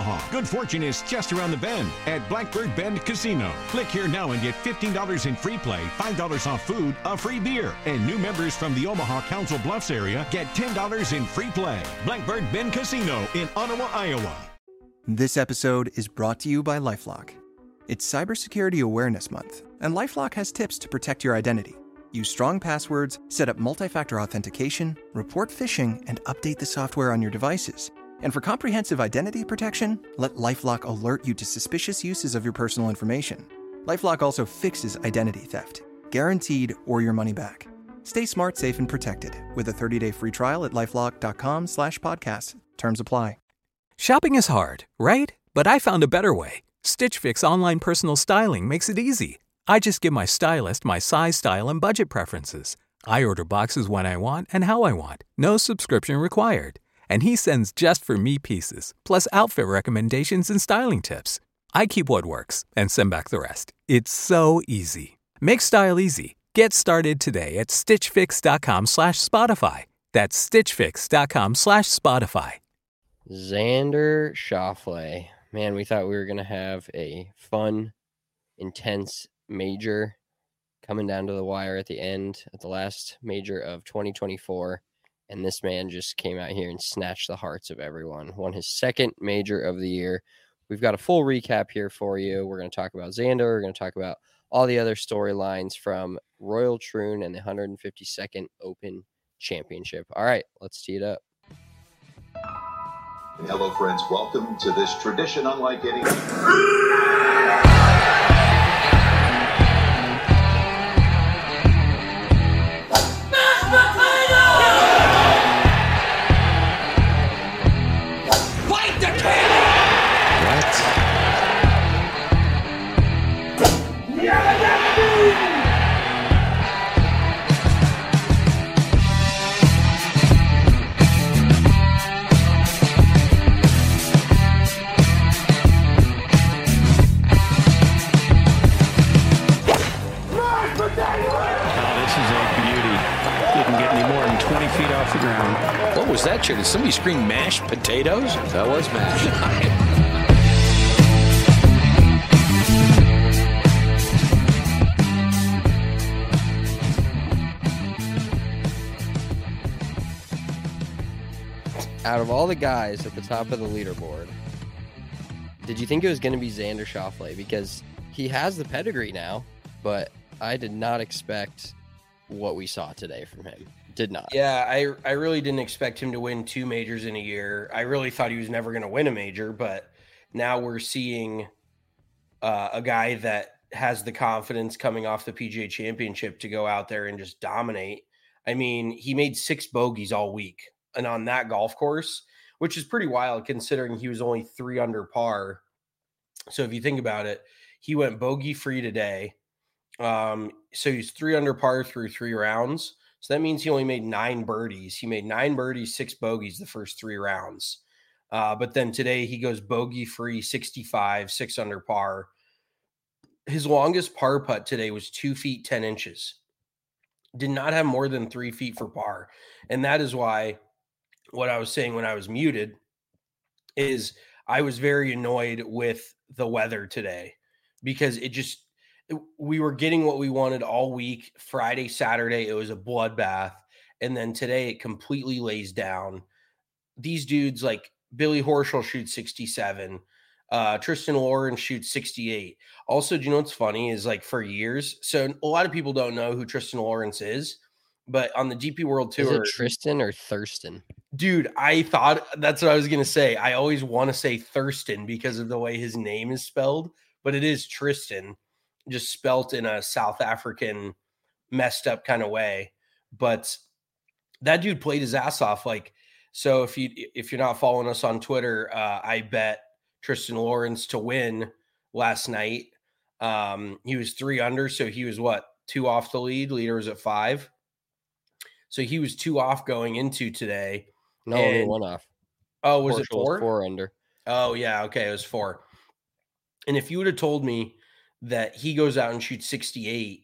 Omaha. Good fortune is just around the bend at Blackbird Bend Casino. Click here now and get $15 in free play, $5 off food, a free beer. And new members from the Omaha Council Bluffs area get $10 in free play. Blackbird Bend Casino in Ottawa, Iowa. This episode is brought to you by LifeLock. It's Cybersecurity Awareness Month, and LifeLock has tips to protect your identity. Use strong passwords, set up multi-factor authentication, report phishing, and update the software on your devices. And for comprehensive identity protection, let LifeLock alert you to suspicious uses of your personal information. LifeLock also fixes identity theft, guaranteed or your money back. Stay smart, safe, and protected with a 30-day free trial at LifeLock.com/podcast. Terms apply. Shopping is hard, right? But I found a better way. Stitch Fix online personal styling makes it easy. I just give my stylist my size, style, and budget preferences. I order boxes when I want and how I want. No subscription required. And he sends just for me pieces, plus outfit recommendations and styling tips. I keep what works and send back the rest. It's so easy. Make style easy. Get started today at stitchfix.com/Spotify. That's stitchfix.com/Spotify. Xander Schauffele. Man, we thought we were going to have a fun, intense major coming down to the wire at the end at the last major of 2024. And this man just came out here and snatched the hearts of everyone. Won his second major of the year. We've got a full recap here for you. We're going to talk about Xander. We're going to talk about all the other storylines from Royal Troon and the 152nd Open Championship. All right, let's tee it up. Hello, friends. Welcome to this tradition unlike any. What was that, Chair? Did somebody scream mashed potatoes? That was mashed. Out of all the guys at the top of the leaderboard, did you think it was going to be Xander Schauffele? Because he has the pedigree now, but I did not expect what we saw today from him. Did not. Yeah, I really didn't expect him to win 2 majors in a year. I really thought he was never going to win a major, but now we're seeing a guy that has the confidence coming off the PGA Championship to go out there and just dominate. I mean, he made 6 bogeys all week, and on that golf course, which is pretty wild considering he was only 3 under par. So if you think about it, he went bogey free today. So he's 3 under par through 3 rounds. So that means he only made 9 birdies. He made 9 birdies, 6 bogeys the first 3 rounds. But then today he goes bogey free, 65, 6 under par. His longest par putt today was 2 feet, 10 inches. Did not have more than 3 feet for par. And that is why what I was saying when I was muted is I was very annoyed with the weather today because we were getting what we wanted all week. Friday, Saturday, it was a bloodbath. And then today it completely lays down. These dudes like Billy Horschel shoots 67. Tristan Lawrence shoots 68. Also, do you know what's funny is like for years. So a lot of people don't know who Tristan Lawrence is, but on the DP World Tour. Is it Tristan or Thurston? Dude, I thought that's what I was going to say. I always want to say Thurston because of the way his name is spelled, but it is Tristan, just spelt in a South African messed up kind of way. But that dude played his ass off. Like, so if you're not following us on Twitter, I bet Tristan Lawrence to win last night. He was 3 under, so he was 2 off the lead. Leader was at 5. So he was 2 off going into today. No, only 1 off. Oh, was it 4? 4 under. Oh, yeah. Okay, it was 4. And if you would have told me that he goes out and shoots 68,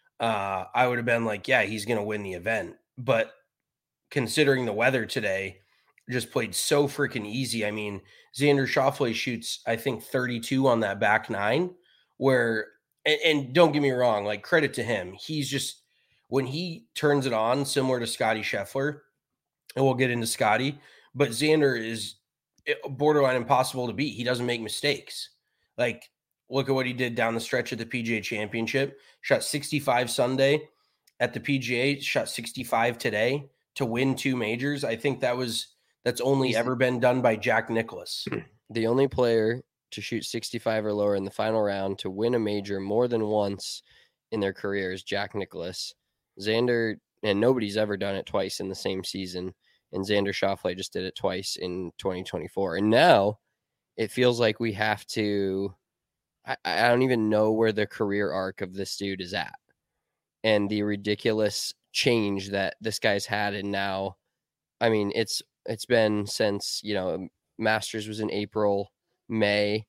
I would have been like, yeah, he's going to win the event. But considering the weather today, just played so freaking easy. I mean, Xander Schauffele shoots, I think, 32 on that back nine, where, and don't get me wrong, like, credit to him. He's just, when he turns it on, similar to Scotty Scheffler, and we'll get into Scotty, but Xander is borderline impossible to beat. He doesn't make mistakes. Like, look at what he did down the stretch at the PGA Championship. Shot 65 Sunday at the PGA, shot 65 today to win 2 majors. I think that's only ever been done by Jack Nicklaus. The only player to shoot 65 or lower in the final round to win a major more than once in their career is Jack Nicklaus. Xander, and nobody's ever done it twice in the same season. And Xander Schauffele just did it twice in 2024. And now it feels like we have to, I don't even know where the career arc of this dude is at. And the ridiculous change that this guy's had. And now, I mean, it's been since, Masters was in April, May.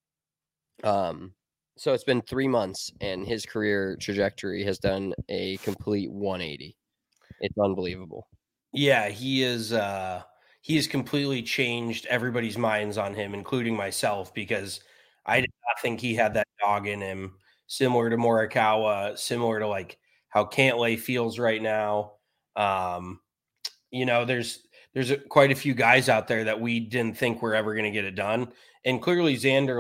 So it's been 3 months, and his career trajectory has done a complete 180. It's unbelievable. Yeah, he has completely changed everybody's minds on him, including myself, because I did not think he had that dog in him, similar to Morikawa, similar to like how Cantlay feels right now. There's quite a few guys out there that we didn't think were ever going to get it done. And clearly Xander,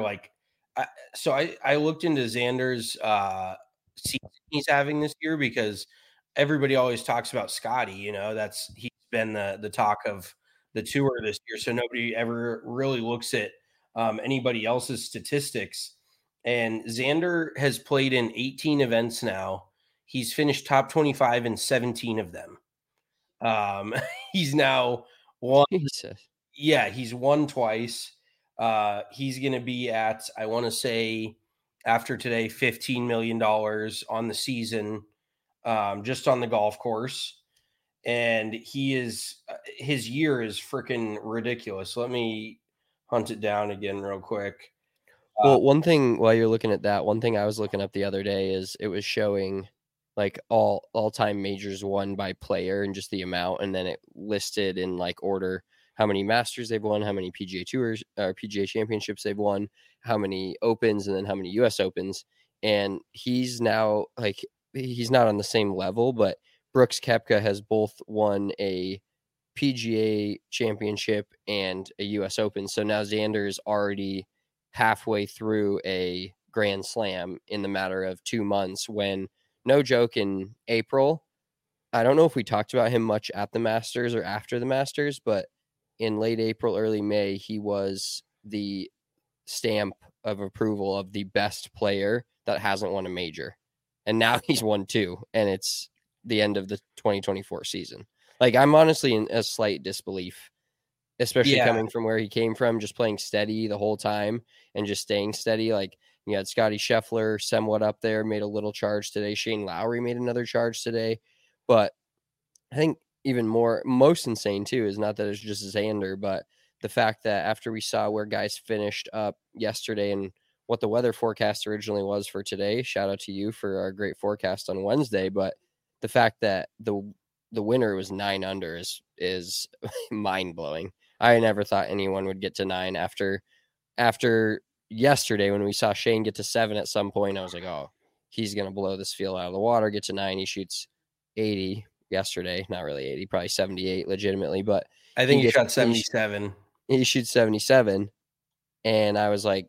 I looked into Xander's season he's having this year, because everybody always talks about Scotty, he's been the talk of the tour this year. So nobody ever really looks at anybody else's statistics. And Xander has played in 18 events now. He's finished top 25 in 17 of them. He's now won. Jesus. Yeah, he's won twice. He's going to be at, I want to say, after today, $15 million on the season, just on the golf course. And his year is freaking ridiculous. Let me hunt it down again real quick. Well, one thing while you're looking at that, one thing I was looking up the other day is it was showing like all-time majors won by player and just the amount, and then it listed in like order how many Masters they've won, how many PGA Tours or PGA Championships they've won, how many Opens, and then how many US Opens. And he's now he's not on the same level, but Brooks Koepka has both won a PGA Championship and a US Open. So now Xander is already halfway through a Grand Slam in the matter of 2 months, when, no joke, in April, I don't know if we talked about him much at the Masters or after the Masters, but in late April, early May, he was the stamp of approval of the best player that hasn't won a major. And now he's won 2, and it's the end of the 2024 season. Like, I'm honestly in a slight disbelief, especially coming from where he came from, just playing steady the whole time and just staying steady. Like, you had Scotty Scheffler somewhat up there, made a little charge today. Shane Lowry made another charge today. But I think even most insane too is not that it's just Xander, but the fact that after we saw where guys finished up yesterday and what the weather forecast originally was for today, shout out to you for our great forecast on Wednesday. But the fact that the winner was 9 under is mind blowing. I never thought anyone would get to 9 after yesterday when we saw Shane get to 7 at some point. I was like, oh, he's going to blow this field out of the water, get to 9. He shoots 80 yesterday. Not really 80, probably 78 legitimately, but I think he shot 77. He shoots 77. And I was like,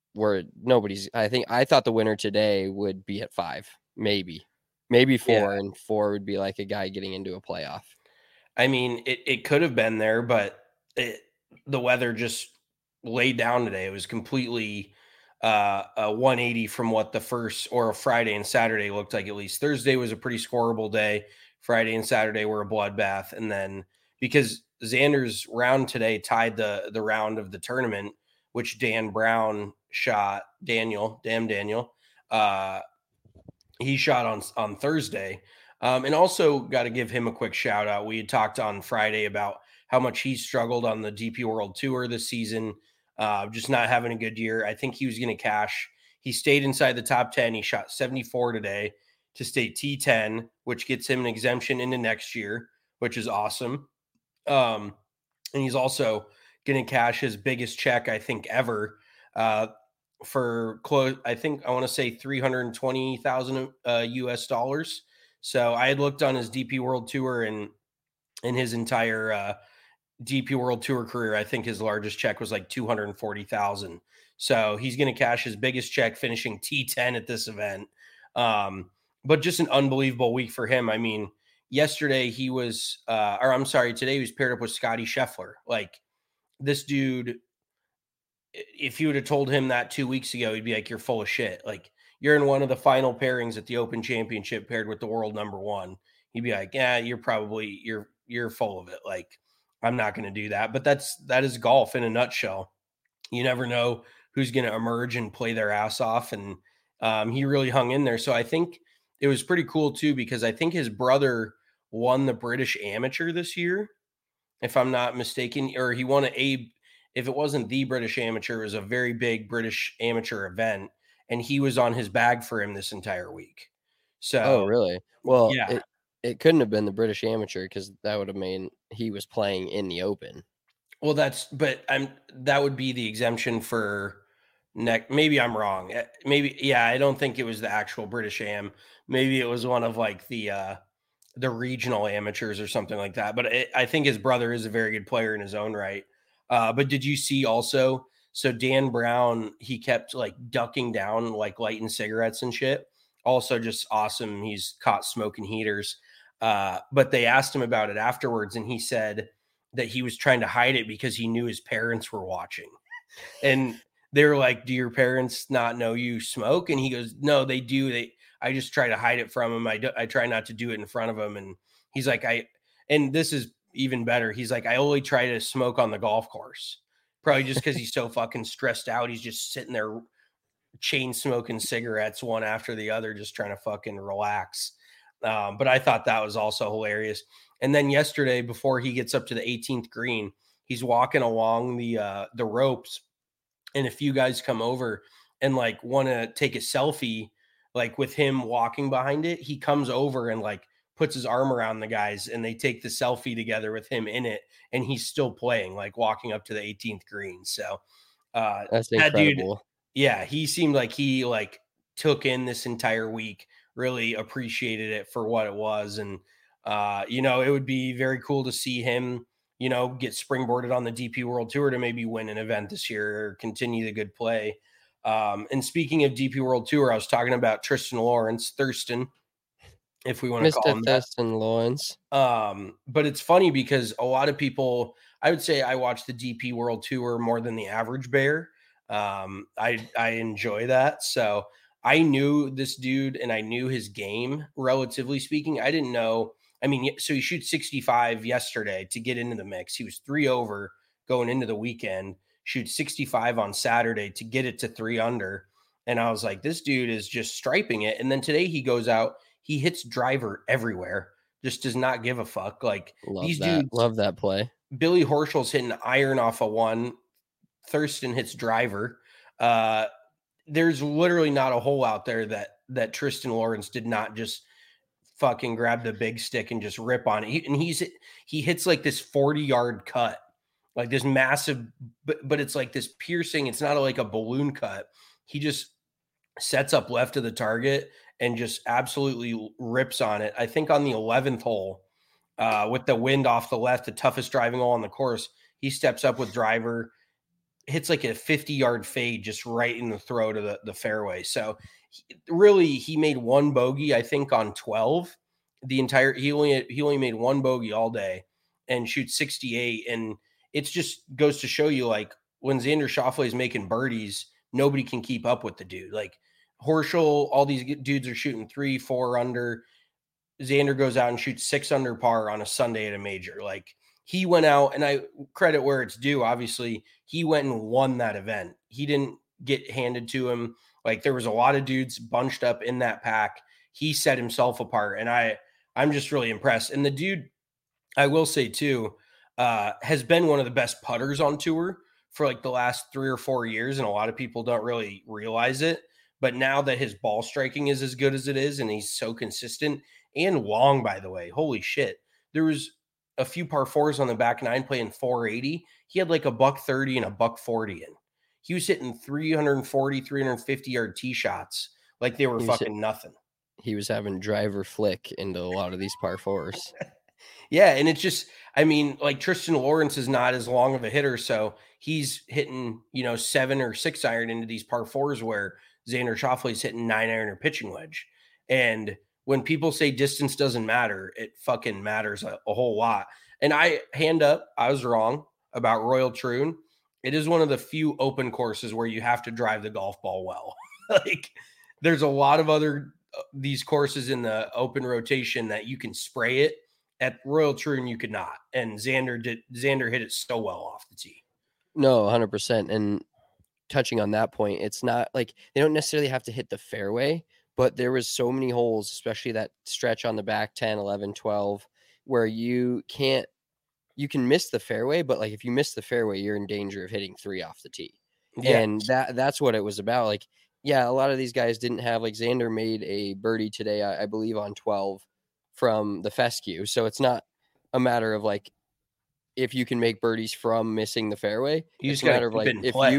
I thought the winner today would be at 5, maybe 4, and 4 would be like a guy getting into a playoff. I mean, it could have been there, but the weather just laid down today. It was completely a 180 from what the first, or Friday and Saturday looked like. At least Thursday was a pretty scoreable day. Friday and Saturday were a bloodbath. And then because Xander's round today tied the round of the tournament, which Dan Brown shot, Daniel, he shot on Thursday. And also got to give him a quick shout out. We had talked on Friday about how much he struggled on the DP World Tour this season, just not having a good year. I think he was going to cash. He stayed inside the top 10. He shot 74 today to stay T10, which gets him an exemption into next year, which is awesome. And he's also going to cash his biggest check, I think, ever, for close. I think I want to say 320,000 US dollars. So I had looked on his DP World Tour and in his entire DP World Tour career, I think his largest check was like 240,000. So he's going to cash his biggest check, finishing T10 at this event. But just an unbelievable week for him. I mean, yesterday he was, today he was paired up with Scotty Scheffler. Like, this dude, if you would have told him that 2 weeks ago, he'd be like, you're full of shit. Like, you're in one of the final pairings at the Open Championship paired with the world number one. He'd be like, yeah, you're full of it. Like, I'm not going to do that. But that is golf in a nutshell. You never know who's going to emerge and play their ass off. And he really hung in there. So I think it was pretty cool too, because I think his brother won the British Amateur this year, if I'm not mistaken, or he won if it wasn't the British Amateur, it was a very big British Amateur event, and he was on his bag for him this entire week. So, oh, really? Well, yeah, it couldn't have been the British Amateur, because that would have meant he was playing in the Open. well, that would be the exemption for maybe I'm wrong. Maybe, yeah, I don't think it was the actual British Am. Maybe it was one of like the regional amateurs or something like that. But I think his brother is a very good player in his own right. But did you see also? So Dan Brown, he kept like ducking down, like lighting cigarettes and shit. Also just awesome. He's caught smoking heaters. But they asked him about it afterwards, and he said that he was trying to hide it because he knew his parents were watching. And they were like, do your parents not know you smoke? And he goes, no, they do. I just try to hide it from them. I try not to do it in front of them. And he's like, and this is even better. He's like, I only try to smoke on the golf course, probably just because he's so fucking stressed out. He's just sitting there chain smoking cigarettes one after the other, just trying to fucking relax. But I thought that was also hilarious. And then yesterday, before he gets up to the 18th green, he's walking along the ropes, and a few guys come over and like want to take a selfie, like with him walking behind it. He comes over and like puts his arm around the guys, and they take the selfie together with him in it. And he's still playing, like walking up to the 18th green. So that's incredible. That dude, yeah, he seemed like he like took in this entire week, really appreciated it for what it was. And, it would be very cool to see him, get springboarded on the DP World Tour to maybe win an event this year or continue the good play. And speaking of DP World Tour, I was talking about Tristan Lawrence, Thurston, if we want to call him that. Thurston Lawrence. But it's funny because a lot of people, I would say I watch the DP World Tour more than the average bear. I enjoy that. So I knew this dude and I knew his game, relatively speaking. I didn't know. I mean, so he shoots 65 yesterday to get into the mix. He was 3 over going into the weekend, shoots 65 on Saturday to get it to 3 under. And I was like, this dude is just striping it. And then today he goes out, he hits driver everywhere, just does not give a fuck. Like, dudes, love that play. Billy Horschel's hitting iron off a 1. Thurston hits driver. There's literally not a hole out there that Tristan Lawrence did not just fucking grab the big stick and just rip on it. He hits like this 40-yard cut, like this massive, but it's like this piercing. It's not like a balloon cut. He just sets up left of the target and just absolutely rips on it. I think on the 11th hole, with the wind off the left, the toughest driving hole on the course, he steps up with driver, hits like a 50-yard fade just right in the throat of the fairway. So he made 1 bogey, I think, on 12. He only made 1 bogey all day and shoots 68. And it just goes to show you, like, when Xander Schauffele is making birdies, nobody can keep up with the dude. Like, Horschel, all these dudes are shooting 3, 4 under. Xander goes out and shoots 6 under par on a Sunday at a major. Like, he went out, and I credit where it's due. Obviously, he went and won that event. He didn't get handed to him. Like, there was a lot of dudes bunched up in that pack. He set himself apart, and I'm just really impressed. And the dude, I will say too, has been one of the best putters on tour for like the last 3 or 4 years, and a lot of people don't really realize it. But now that his ball striking is as good as it is, and he's so consistent and long, by the way, holy shit. There was a few par fours on the back nine playing 480. He had like a $130 and a $140 in. He was hitting 340, 350 yard tee shots like they were fucking nothing. He was having driver flick into a lot of these par fours. Yeah, and it's just, I mean, like Tristan Lawrence is not as long of a hitter, so he's hitting, 7 or 6 iron into these par fours where Xander Schauffele's hitting 9 iron or pitching wedge. And when people say distance doesn't matter, it fucking matters a whole lot. And I was wrong about Royal Troon. It is one of the few open courses where you have to drive the golf ball well. Like there's a lot of other these courses in the open rotation that you can spray it. At Royal Troon, you could not. And Xander hit it so well off the tee. No, 100%. And touching on that point, it's not like they don't necessarily have to hit the fairway, but there was so many holes, especially that stretch on the back 10, 11, 12, where you can miss the fairway, but like if you miss the fairway, you're in danger of hitting 3 off the tee. Yeah. And that's what it was about. Like, yeah, a lot of these guys didn't have, like Xander made a birdie today, I believe on 12 from the fescue. So it's not a matter of like, if you can make birdies from missing the fairway, it's a matter of like,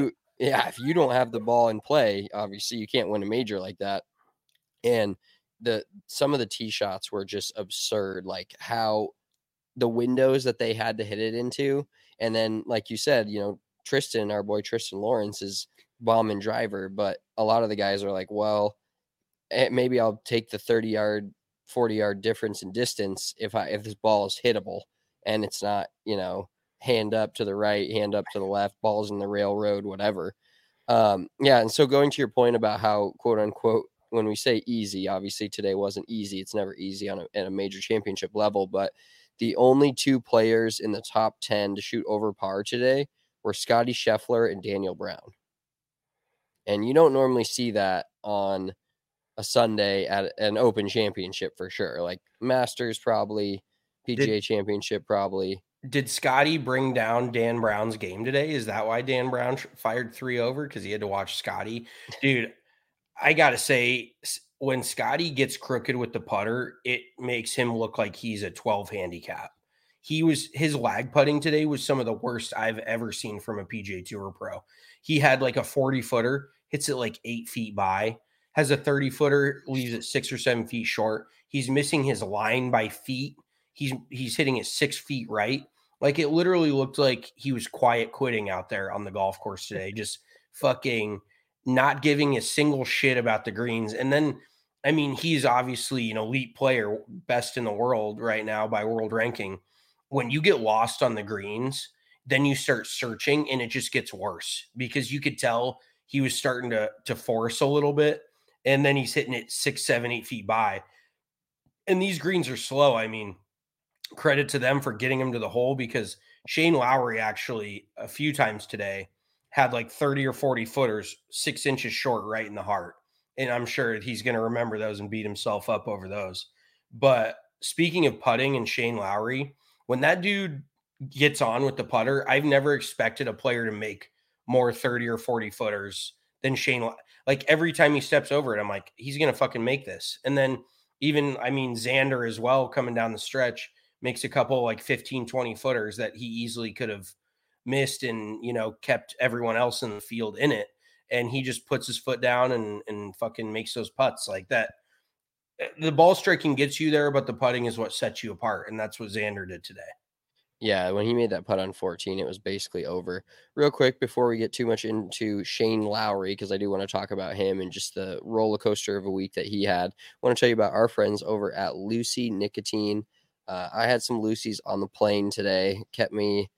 if you don't have the ball in play, obviously you can't win a major like that. And some of the tee shots were just absurd, like how the windows that they had to hit it into. And then, like you said, our boy Tristan Lawrence is bomb and driver, but a lot of the guys are like, well, maybe I'll take the 30-yard, 40-yard difference in distance if this ball is hittable and it's not, hand up to the right, hand up to the left, balls in the railroad, whatever. And so going to your point about how, quote unquote, when we say easy, obviously today wasn't easy. It's never easy at a major championship level, but the only 2 players in the top 10 to shoot over par today were Scotty Scheffler and Daniel Brown. And you don't normally see that on a Sunday at an open championship for sure. Like Masters probably, PGA Championship probably. Did Scotty bring down Dan Brown's game today? Is that why Dan Brown fired 3 over? Because he had to watch Scotty? Dude, I got to say, when Scotty gets crooked with the putter, it makes him look like he's a 12 handicap. His lag putting today was some of the worst I've ever seen from a PGA Tour pro. He had like a 40-footer, hits it like 8 feet by, has a 30-footer, leaves it 6 or 7 feet short. He's missing his line by feet. He's hitting it 6 feet right. Like it literally looked like he was quiet quitting out there on the golf course today, just fucking not giving a single shit about the greens. And then, I mean, he's obviously an elite player, best in the world right now by world ranking. When you get lost on the greens, then you start searching and it just gets worse because you could tell he was starting to force a little bit. And then he's hitting it 6, 7, 8 feet by. And these greens are slow. I mean, credit to them for getting him to the hole because Shane Lowry actually a few times today had like 30 or 40 footers, 6 inches short right in the heart. And I'm sure he's going to remember those and beat himself up over those. But speaking of putting and Shane Lowry, when that dude gets on with the putter, I've never expected a player to make more 30 or 40 footers than Shane. Like every time he steps over it, I'm like, he's going to fucking make this. And then even, I mean, Xander as well coming down the stretch makes a couple like 15, 20 footers that he easily could have missed and, kept everyone else in the field in it. And he just puts his foot down and fucking makes those putts like that. The ball striking gets you there, but the putting is what sets you apart. And that's what Xander did today. Yeah, when he made that putt on 14, it was basically over. Real quick, before we get too much into Shane Lowry, because I do want to talk about him and just the roller coaster of a week that he had, I want to tell you about our friends over at Lucy Nicotine. I had some Lucy's on the plane today, kept me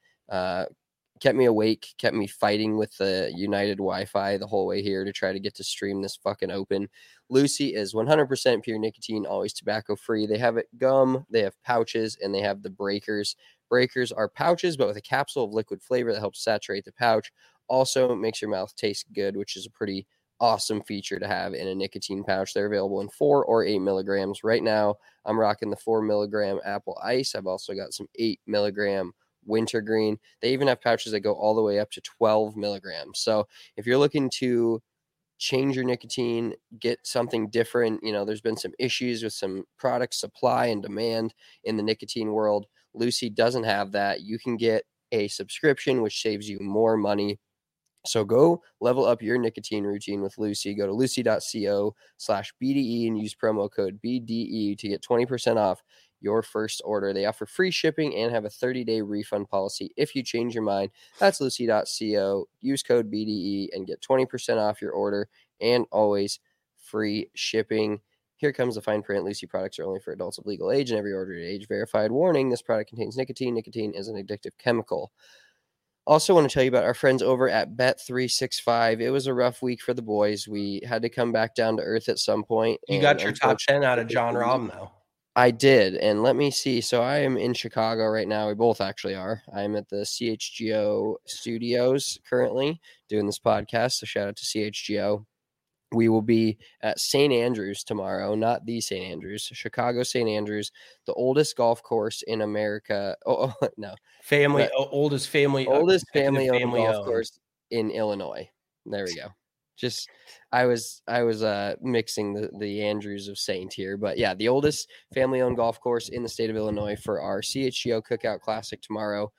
awake, kept me fighting with the United Wi-Fi the whole way here to try to get to stream this fucking open. Lucy is 100% pure nicotine, always tobacco free. They have it gum, they have pouches, and they have the breakers. Breakers are pouches, but with a capsule of liquid flavor that helps saturate the pouch. Also makes your mouth taste good, which is a pretty awesome feature to have in a nicotine pouch. They're available in 4 or 8 milligrams. Right now, I'm rocking the 4 milligram apple ice. I've also got some 8 milligram wintergreen. They even have pouches that go all the way up to 12 milligrams. So if you're looking to change your nicotine, get something different, there's been some issues with some product supply and demand in the nicotine world. Lucy doesn't have that. You can get a subscription, which saves you more money. So go level up your nicotine routine with Lucy. Go to lucy.co/BDE and use promo code BDE to get 20% off your first order. They offer free shipping and have a 30-day refund policy if you change your mind. That's lucy.co. Use code BDE and get 20% off your order and always free shipping. Here comes the fine print. Lucy products are only for adults of legal age and every order at age verified. Warning, this product contains nicotine. Nicotine is an addictive chemical. Also want to tell you about our friends over at Bet365. It was a rough week for the boys. We had to come back down to earth at some point. You got your top 10 out of John Rahm, though. I did. And let me see. So I am in Chicago right now. We both actually are. I'm at the CHGO studios currently doing this podcast. So shout out to CHGO. We will be at St. Andrews tomorrow, not the St. Andrews, Chicago St. Andrews, the oldest golf course in America. Oh no. Oldest family owned golf course in Illinois. There we go. Just I was mixing the Andrews of Saint here, but yeah, the oldest family owned golf course in the state of Illinois for our CHGO Cookout Classic tomorrow.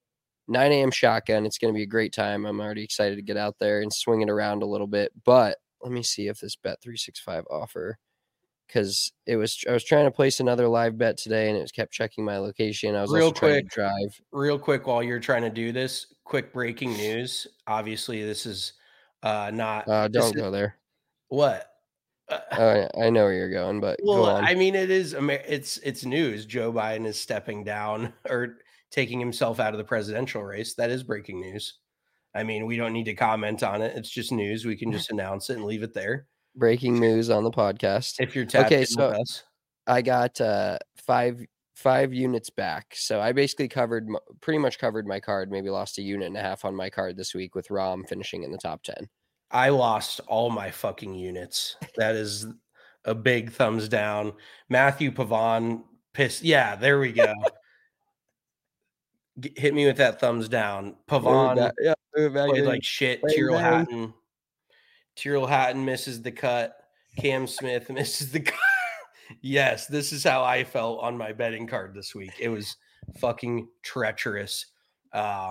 9 a.m. shotgun. It's going to be a great time. I'm already excited to get out there and swing it around a little bit, but let me see if this Bet365 offer, because I was trying to place another live bet today and it kept checking my location. I was trying to drive. Real quick while you're trying to do this, quick breaking news. Obviously, this is not. Don't go there. What? I know where you're going, but well, go on. I mean, it's news. Joe Biden is stepping down or taking himself out of the presidential race. That is breaking news. I mean, we don't need to comment on it. It's just news. We can just announce it and leave it there. Breaking news on the podcast. If you're tapped in with us. I got five units back. So I basically pretty much covered my card, maybe lost a unit and a half on my card this week with Rahm finishing in the top 10. I lost all my fucking units. That is a big thumbs down. Matthew Pavon pissed. Yeah, there we go. Hit me with that thumbs down. Pavon played like shit. Tyrrell Hatton misses the cut. Cam Smith misses the cut. Yes, this is how I felt on my betting card this week. It was fucking treacherous. I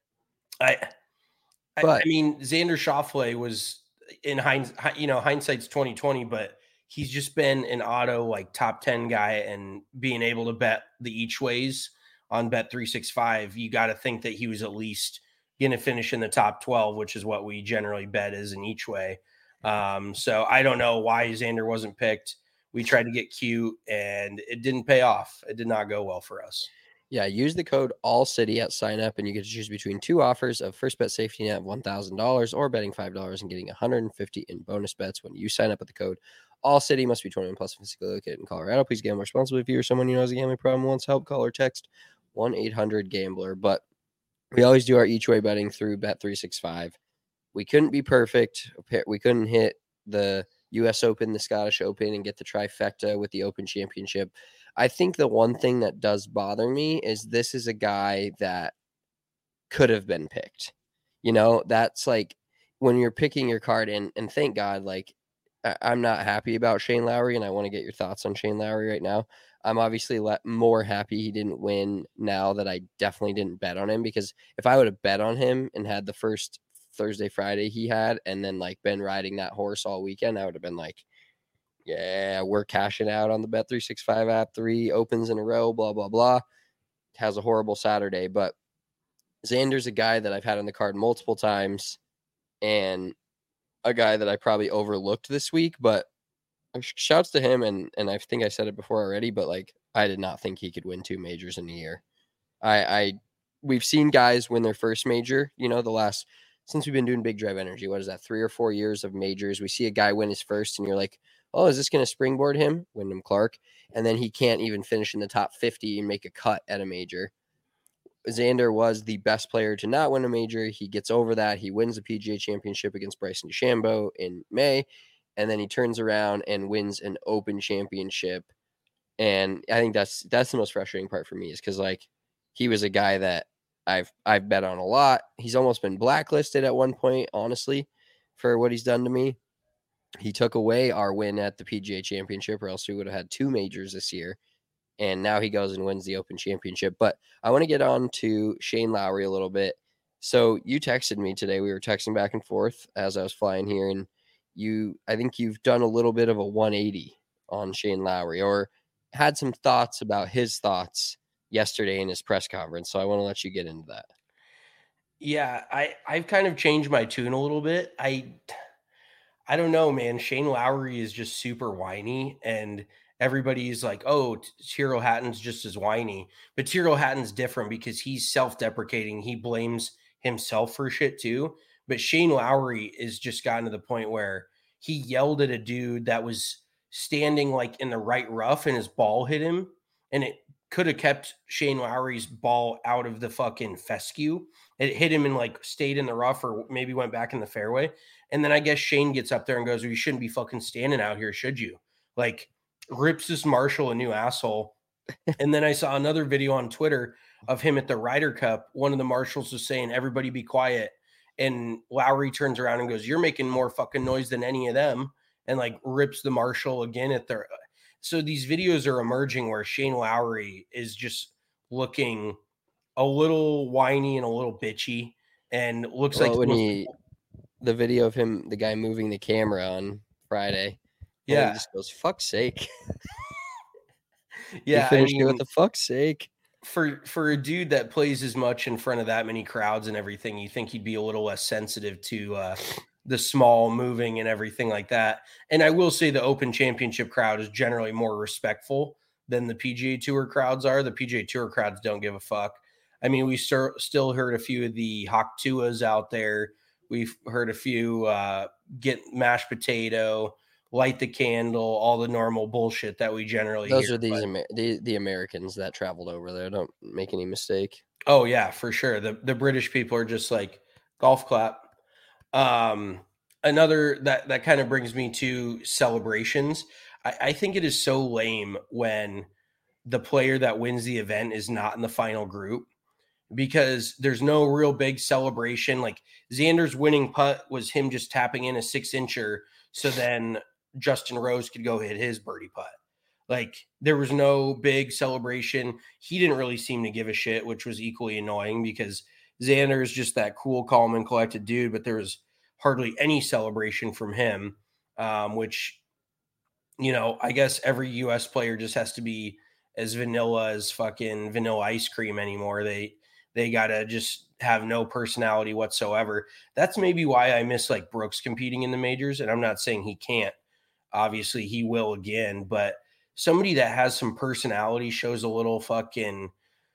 mean, Xander Schauffele was in hindsight's 20/20, but he's just been an auto like top 10 guy, and being able to bet the each ways on Bet365, you got to think that he was at least going to finish in the top 12, which is what we generally bet is in each way. So I don't know why Xander wasn't picked. We tried to get cute and it didn't pay off. It did not go well for us. Yeah, use the code ALLCITY at sign up and you get to choose between two offers of first bet safety net of $1,000 or betting $5 and getting $150 in bonus bets when you sign up with the code ALLCITY. Must be 21 plus, physically located in Colorado. Please gamble responsibly. If you or someone you know has a gambling problem wants help, call or text 1-800-GAMBLER. But we always do our each way betting through Bet365. We couldn't be perfect. We couldn't hit the U.S. Open, the Scottish Open, and get the trifecta with the Open Championship. I think the one thing that does bother me is this is a guy that could have been picked. You know, that's like when you're picking your card, and thank God, like, I'm not happy about Shane Lowry, and I want to get your thoughts on Shane Lowry right now. I'm obviously more happy he didn't win now that I definitely didn't bet on him, because if I would have bet on him and had the first Thursday, Friday he had, and then like been riding that horse all weekend, I would have been like, yeah, we're cashing out on the Bet365 app, 3 opens in a row, blah, blah, blah. Has a horrible Saturday, but Xander's a guy that I've had on the card multiple times and a guy that I probably overlooked this week, but shouts to him. And I think I said it before already, but like, I did not think he could win 2 majors in a year. We've seen guys win their first major, you know, since we've been doing Big Drive Energy, what is that, 3 or 4 years of majors? We see a guy win his first and you're like, oh, is this going to springboard him? Wyndham Clark. And then he can't even finish in the top 50 and make a cut at a major. Xander was the best player to not win a major. He gets over that. He wins the PGA Championship against Bryson DeChambeau in May. And then he turns around and wins an Open Championship. And I think that's the most frustrating part for me, is because like he was a guy that I've bet on a lot. He's almost been blacklisted at one point, honestly, for what he's done to me. He took away our win at the PGA Championship, or else we would have had 2 majors this year. and now he goes and wins the Open Championship. But I want to get on to Shane Lowry a little bit. So you texted me today. We were texting back and forth as I was flying here, and I think you've done a little bit of a 180 on Shane Lowry, or had some thoughts about his thoughts yesterday in his press conference. So I want to let you get into that. Yeah, I've kind of changed my tune a little bit. I don't know, man. Shane Lowry is just super whiny, and everybody's like, "Oh, Tyrrell Hatton's just as whiny." But Tyrrell Hatton's different because he's self-deprecating. He blames himself for shit too. But Shane Lowry is just gotten to the point where he yelled at a dude that was standing like in the right rough, and his ball hit him, and it could have kept Shane Lowry's ball out of the fucking fescue. It hit him and like stayed in the rough, or maybe went back in the fairway. And then I guess Shane gets up there and goes, well, you shouldn't be fucking standing out here, should you? Like, rips this Marshall a new asshole. And then I saw another video on Twitter of him at the Ryder Cup. One of the marshals was saying, everybody be quiet. And Lowry turns around and goes, you're making more fucking noise than any of them. And like rips the marshal again at their. So these videos are emerging where Shane Lowry is just looking a little whiny and a little bitchy, and looks like the video of him, the guy moving the camera on Friday. Yeah. He just goes, fuck's sake. Yeah. I mean, with the fuck's sake. For a dude that plays as much in front of that many crowds and everything, you think he'd be a little less sensitive to the small moving and everything like that. And I will say the Open Championship crowd is generally more respectful than the PGA Tour crowds are. The PGA Tour crowds don't give a fuck. I mean, we still heard a few of the Hawk Tuas out there. We've heard a few get mashed potato, light the candle, all the normal bullshit that we generally Those hear. Are these the Americans that traveled over there. Don't make any mistake. Oh, yeah, for sure. The British people are just like, golf clap. Another that kind of brings me to celebrations. I think it is so lame when the player that wins the event is not in the final group, because there's no real big celebration. Like Xander's winning putt was him just tapping in a 6-incher so then Justin Rose could go hit his birdie putt. Like there was no big celebration. He didn't really seem to give a shit, which was equally annoying because Xander is just that cool, calm, and collected dude, but there was hardly any celebration from him, which, you know, I guess every U.S. player just has to be as vanilla as fucking vanilla ice cream anymore. They got to just have no personality whatsoever. That's maybe why I miss like Brooks competing in the majors. And I'm not saying he can't. Obviously he will again, but somebody that has some personality, shows a little fucking,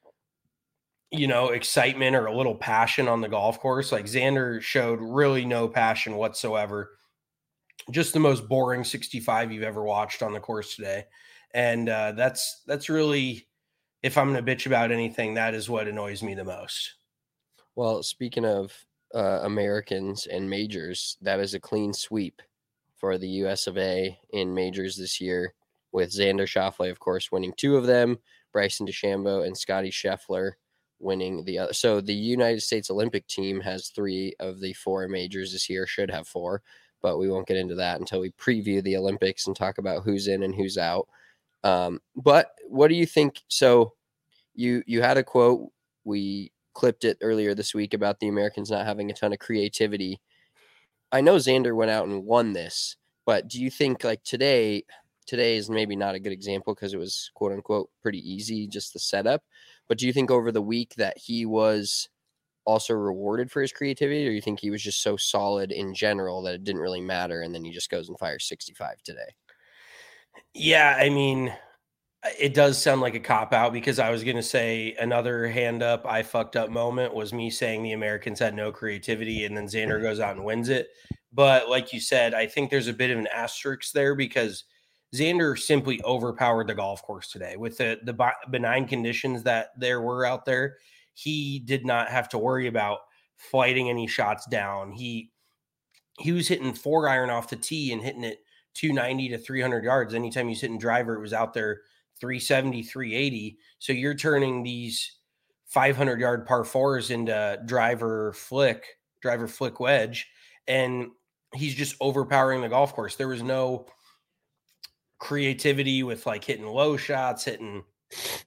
you know, excitement or a little passion on the golf course. Like Xander showed really no passion whatsoever. Just the most boring 65 you've ever watched on the course today. And that's really, if I'm going to bitch about anything, that is what annoys me the most. Well, speaking of Americans and majors, that is a clean sweep for the US of A in majors this year, with Xander Schauffele, of course, winning 2 of them, Bryson DeChambeau and Scotty Scheffler winning the other. So the United States Olympic team has 3 of the 4 majors this year, should have 4, but we won't get into that until we preview the Olympics and talk about who's in and who's out. But what do you think? So you had a quote, we clipped it earlier this week about the Americans not having a ton of creativity. I know Xander went out and won this, but do you think like today is maybe not a good example because it was quote unquote pretty easy, just the setup, but do you think over the week that he was also rewarded for his creativity, or you think he was just so solid in general that it didn't really matter and then he just goes and fires 65 today? Yeah, I mean, it does sound like a cop-out because I was going to say another hand up, I fucked up moment was me saying the Americans had no creativity and then Xander goes out and wins it. But like you said, I think there's a bit of an asterisk there because Xander simply overpowered the golf course today with the benign conditions that there were out there. He did not have to worry about flighting any shots down. He was hitting 4-iron off the tee and hitting it 290 to 300 yards. Anytime he's hitting driver, it was out there 370, 380. So you're turning these 500-yard par 4s into driver flick wedge, and he's just overpowering the golf course. There was no creativity with like hitting low shots, hitting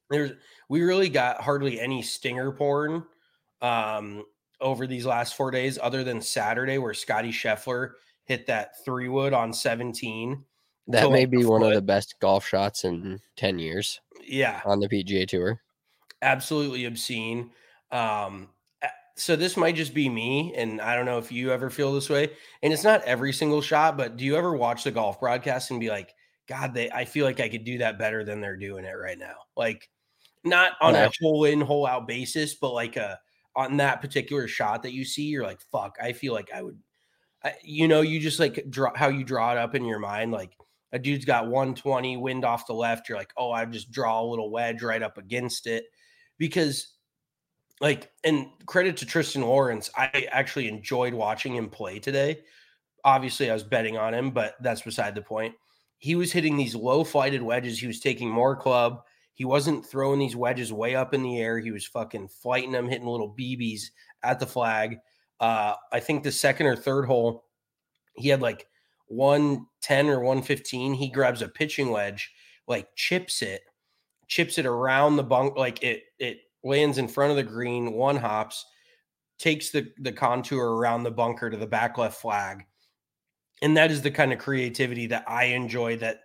We really got hardly any stinger porn over these last 4 days, other than Saturday where Scotty Scheffler hit that 3-wood on 17. That may be one of the best golf shots in 10 years. Yeah. On the PGA Tour. Absolutely obscene. So this might just be me, and I don't know if you ever feel this way. And it's not every single shot, but do you ever watch the golf broadcast and be like, God, I feel like I could do that better than they're doing it right now? Like, not on a whole in, whole out basis, but like on that particular shot that you see, you're like, fuck, I feel like I would, you just like how you draw it up in your mind. Like a dude's got 120 wind off the left. You're like, oh, I just draw a little wedge right up against it. Because like, and credit to Tristan Lawrence, I actually enjoyed watching him play today. Obviously, I was betting on him, but that's beside the point. He was hitting these low flighted wedges. He was taking more club. He wasn't throwing these wedges way up in the air. He was fucking flighting them, hitting little BBs at the flag. I think the second or third hole, he had like 110 or 115. He grabs a pitching wedge, like chips it around the bunk, like it lands in front of the green, one hops, takes the contour around the bunker to the back left flag. And that is the kind of creativity that I enjoy that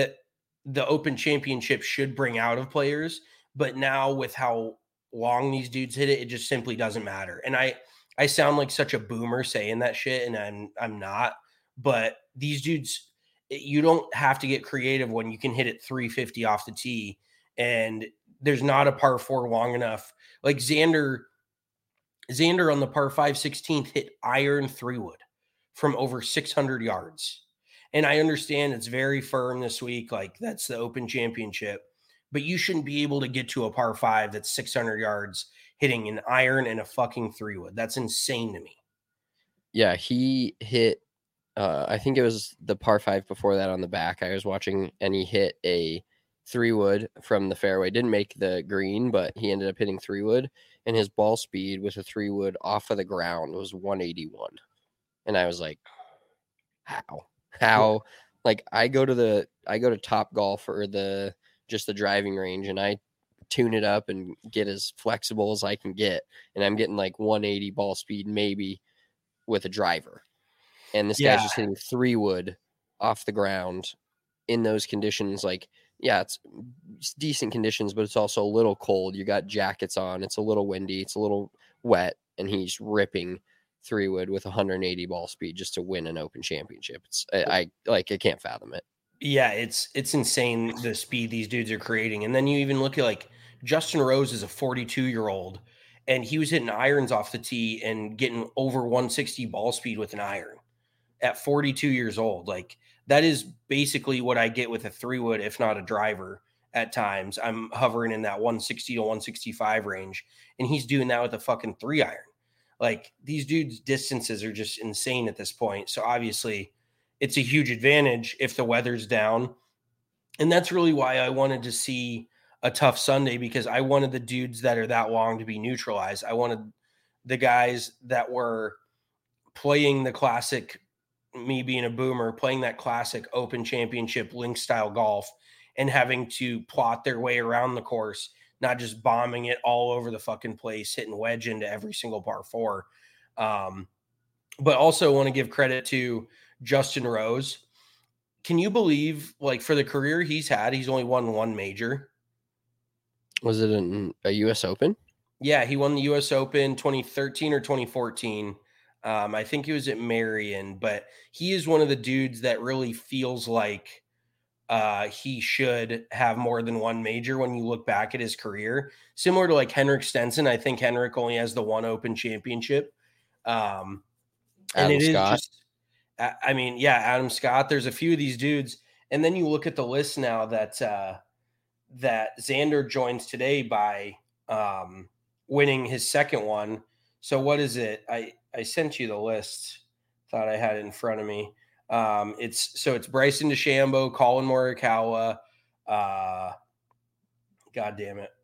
the Open Championship should bring out of players. But now with how long these dudes hit it, it just simply doesn't matter. And I sound like such a boomer saying that shit, and I'm not. But these dudes, you don't have to get creative when you can hit it 350 off the tee. And there's not a par 4 long enough. Like Xander on the par 5 16th hit iron 3-wood from over 600 yards. And I understand it's very firm this week. Like that's the Open Championship, but you shouldn't be able to get to a par 5 that's 600 yards hitting an iron and a fucking 3-wood. That's insane to me. Yeah. He hit, I think it was the par 5 before that on the back I was watching, and he hit a 3-wood from the fairway. Didn't make the green, but he ended up hitting 3-wood, and his ball speed with a 3-wood off of the ground was 181. And I was like, how? Like I go to Top Golf or the driving range, and I tune it up and get as flexible as I can get. And I'm getting like 180 ball speed, maybe with a driver. And this guy's just hitting 3-wood off the ground in those conditions. Like, yeah, it's decent conditions, but it's also a little cold. You got jackets on. It's a little windy. It's a little wet. And he's ripping 3-wood with 180 ball speed just to win an Open Championship. I can't fathom it. Yeah, it's insane the speed these dudes are creating. And then you even look at like Justin Rose is a 42-year-old, and he was hitting irons off the tee and getting over 160 ball speed with an iron at 42 years old. Like that is basically what I get with a 3-wood, if not a driver at times. I'm hovering in that 160 to 165 range, and he's doing that with a fucking 3-iron. Like these dudes' distances are just insane at this point. So obviously it's a huge advantage if the weather's down. And that's really why I wanted to see a tough Sunday, because I wanted the dudes that are that long to be neutralized. I wanted the guys that were playing the classic, me being a boomer, playing that classic Open Championship link style golf and having to plot their way around the course, not just bombing it all over the fucking place, hitting wedge into every single par 4. But also want to give credit to Justin Rose. Can you believe, like, for the career he's had, he's only won one major? Was it a U.S. Open? Yeah, he won the U.S. Open 2013 or 2014. I think he was at Marion, but he is one of the dudes that really feels like he should have more than one major when you look back at his career. Similar to like Henrik Stenson. I think Henrik only has the one Open Championship. And it Scott. Is just, I mean, yeah, Adam Scott. There's a few of these dudes. And then you look at the list now that Xander joins today by winning his second one. So what is it? I sent you the list. Thought I had it in front of me. It's Bryson DeChambeau, Colin Morikawa. God damn it.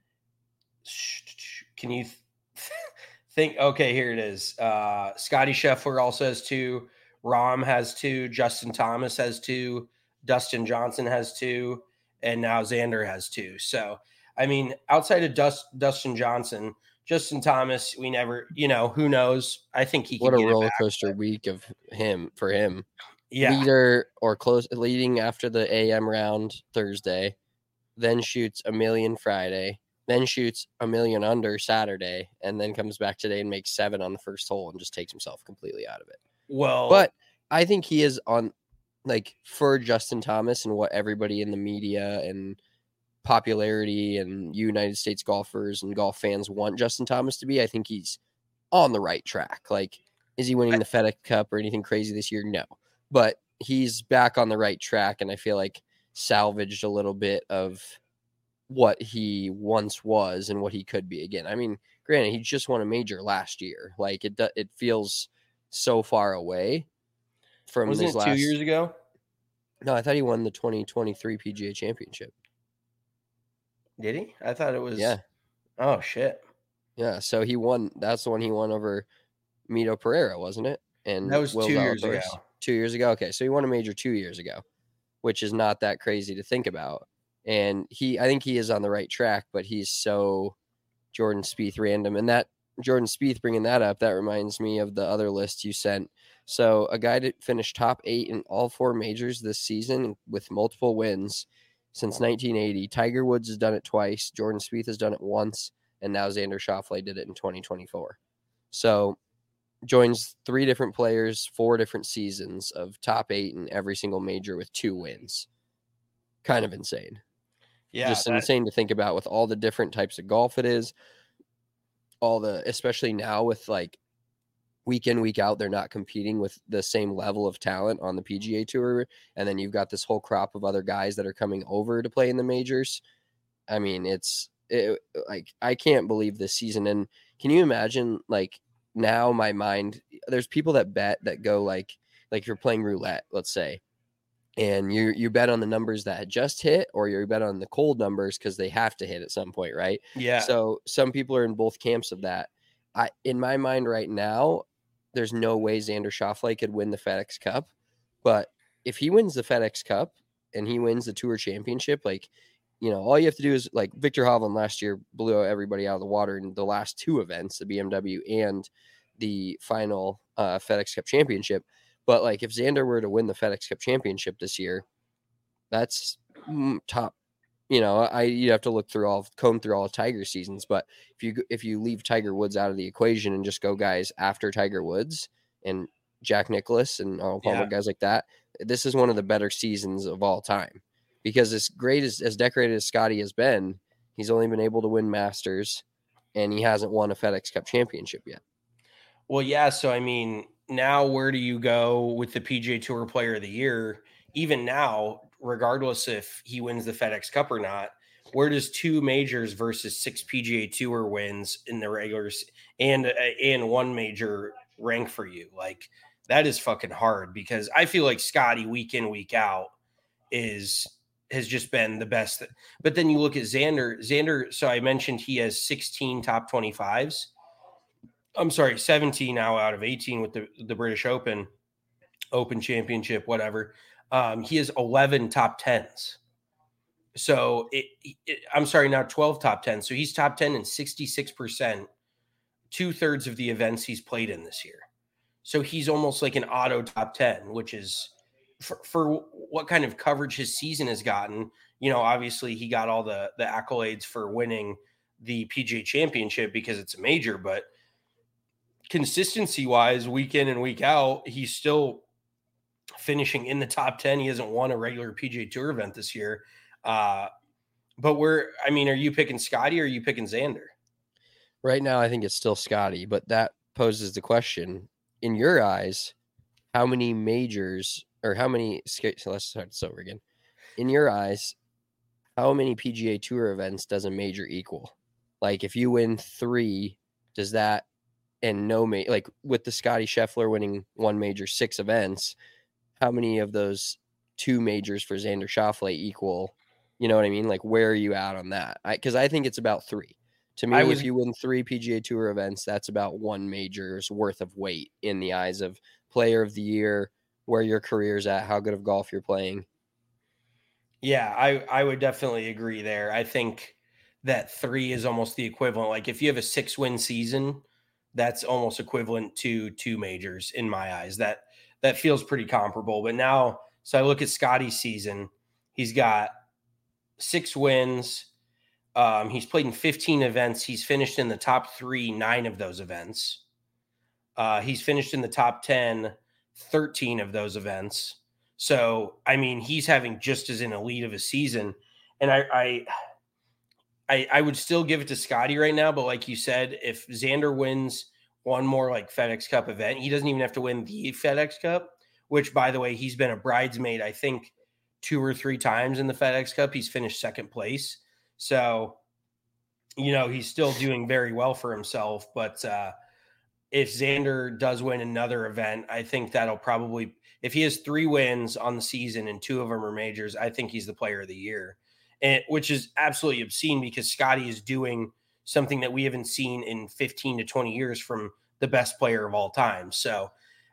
Can you think? Okay, here it is. Scotty Scheffler also has 2. Rahm has 2. Justin Thomas has 2. Dustin Johnson has 2. And now Xander has 2. So I mean, outside of Dustin Johnson, Justin Thomas, we never, who knows? I think he What can a get roller it back, coaster but week of him for him. yeah. Leading after the AM round Thursday, then shoots a million Friday, then shoots a million under Saturday, and then comes back today and makes 7 on the first hole and just takes himself completely out of it. Well, But I think he is on, like, for Justin Thomas and what everybody in the media and popularity and United States golfers and golf fans want Justin Thomas to be, I think he's on the right track. Like, is he winning the FedEx Cup or anything crazy this year? No. But he's back on the right track, and I feel like salvaged a little bit of what he once was and what he could be again. I mean, granted, he just won a major last year. Like, it feels so far away from wasn't his it 2 years ago? No, I thought he won the 2023 PGA Championship. Did he? I thought it was. Yeah. Oh, shit. Yeah, so he won. That's the one he won over Mito Pereira, wasn't it? And That was Will 2 years Zalatoris. ago. 2 years ago. Okay, so he won a major 2 years ago, which is not that crazy to think about. And I think he is on the right track, but he's so Jordan Spieth random. And that Jordan Spieth bringing that up, that reminds me of the other list you sent. So a guy that finished top 8 in all 4 majors this season with multiple wins since 1980. Tiger Woods has done it twice. Jordan Spieth has done it once. And now Xander Schauffele did it in 2024. So joins 3 different players, 4 different seasons of top 8 in every single major with 2 wins. Kind of insane. Yeah. Just insane to think about with all the different types of golf it is. Especially now with like week in, week out, they're not competing with the same level of talent on the PGA Tour. And then you've got this whole crop of other guys that are coming over to play in the majors. I mean, like, I can't believe this season. And can you imagine, like, now my mind, there's people that bet that go like you're playing roulette, let's say, and you bet on the numbers that had just hit, or you bet on the cold numbers because they have to hit at some point, right? Yeah. So some people are in both camps of that. In my mind right now, there's no way Xander Schauffele could win the FedEx Cup. But if he wins the FedEx Cup and he wins the Tour Championship, like, all you have to do is, like, Viktor Hovland last year blew everybody out of the water in the last 2 events, the BMW and the final FedEx Cup Championship. But, like, if Xander were to win the FedEx Cup Championship this year, that's top. You'd have to comb through all of Tiger seasons. But if you leave Tiger Woods out of the equation and just go guys after Tiger Woods and Jack Nicklaus and Arnold Palmer, guys like that, this is one of the better seasons of all time. Because as great as decorated as Scotty has been, he's only been able to win Masters, and he hasn't won a FedEx Cup Championship yet. Well, yeah. So, I mean, now where do you go with the PGA Tour Player of the Year? Even now, regardless if he wins the FedEx Cup or not, where does 2 majors versus 6 PGA Tour wins in the regulars and 1 major rank for you? Like, that is fucking hard, because I feel like Scotty week in, week out has just been the best. But then you look at Xander. So I mentioned he has 16 top 25s. I'm sorry, 17 now out of 18 with the British Open Championship, whatever. He has 11 top 10s. So I'm sorry, now 12 top 10s. So he's top 10 in 66%, 2/3 of the events he's played in this year. So he's almost like an auto top 10, which is for what kind of coverage his season has gotten. Obviously he got all the accolades for winning the PGA Championship because it's a major, but consistency wise, week in and week out, he's still finishing in the top 10. He hasn't won a regular PGA Tour event this year. But are you picking Scotty or are you picking Xander? Right now, I think it's still Scotty, but that poses the question, in your eyes, how many majors or how many, so let's start this over again. In your eyes, how many PGA Tour events does a major equal? Like, if you win 3, does that, and no, like with the Scotty Scheffler winning 1 major, 6 events, how many of those 2 majors for Xander Schauffele equal? You know what I mean? Like, where are you at on that? Because I think it's about 3. To me, if you win 3 PGA Tour events, that's about 1 major's worth of weight in the eyes of Player of the Year, where your career's at, how good of golf you're playing. Yeah, I would definitely agree there. I think that 3 is almost the equivalent. Like if you have a 6-win season, that's almost equivalent to 2 majors in my eyes. That feels pretty comparable. But now, so I look at Scotty's season. He's got 6 wins. He's played in 15 events. He's finished in the top 9 of those events. He's finished in the top 10, 13 of those events. So, I mean, he's having just as an elite of a season. And I would still give it to Scotty right now. But like you said, if Xander wins one more like FedEx Cup event, he doesn't even have to win the FedEx Cup, which, by the way, he's been a bridesmaid, I think, 2 or 3 times in the FedEx Cup. He's finished second place. So, he's still doing very well for himself. But if Xander does win another event, I think that'll probably, if he has 3 wins on the season and 2 of them are majors, I think he's the player of the year, which is absolutely obscene because Scotty is doing something that we haven't seen in 15 to 20 years from the best player of all time. So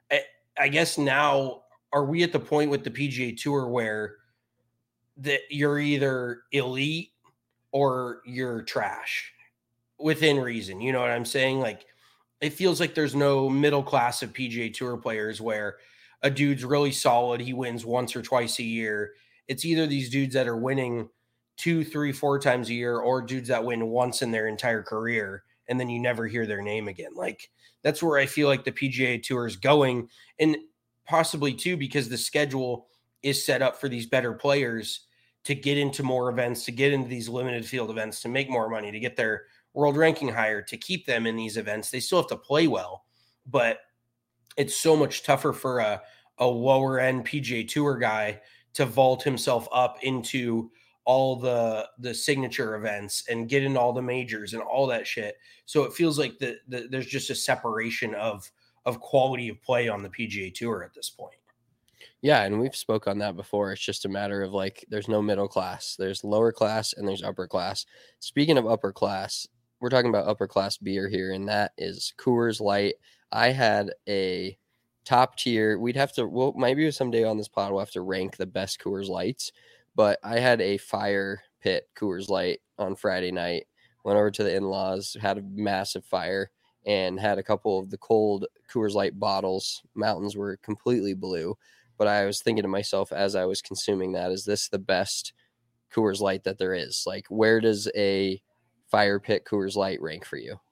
I guess now, are we at the point with the PGA Tour where that you're either elite or you're trash within reason? You know what I'm saying? Like, it feels like there's no middle class of PGA Tour players where a dude's really solid. He wins once or twice a year. It's either these dudes that are winning 2, 3, 4 times a year, or dudes that win once in their entire career, and then you never hear their name again. Like, that's where I feel like the PGA Tour is going, and possibly too because the schedule is set up for these better players to get into more events, to get into these limited field events, to make more money, to get their world ranking higher, to keep them in these events. They still have to play well, but it's so much tougher for a lower end PGA Tour guy to vault himself up into all the signature events and get into all the majors and all that shit. So it feels like there's just a separation of quality of play on the PGA Tour at this point. Yeah, and we've spoke on that before. It's just a matter of like there's no middle class. There's lower class and there's upper class. Speaking of upper class, we're talking about upper class beer here, and that is Coors Light. I had a top tier. Maybe someday on this pod we'll have to rank the best Coors Lights, but I had a fire pit Coors Light on Friday night. Went over to the in-laws, had a massive fire, and had a couple of the cold Coors Light bottles. Mountains were completely blue. But I was thinking to myself as I was consuming that, is this the best Coors Light that there is? Like, where does a fire pit Coors Light rank for you?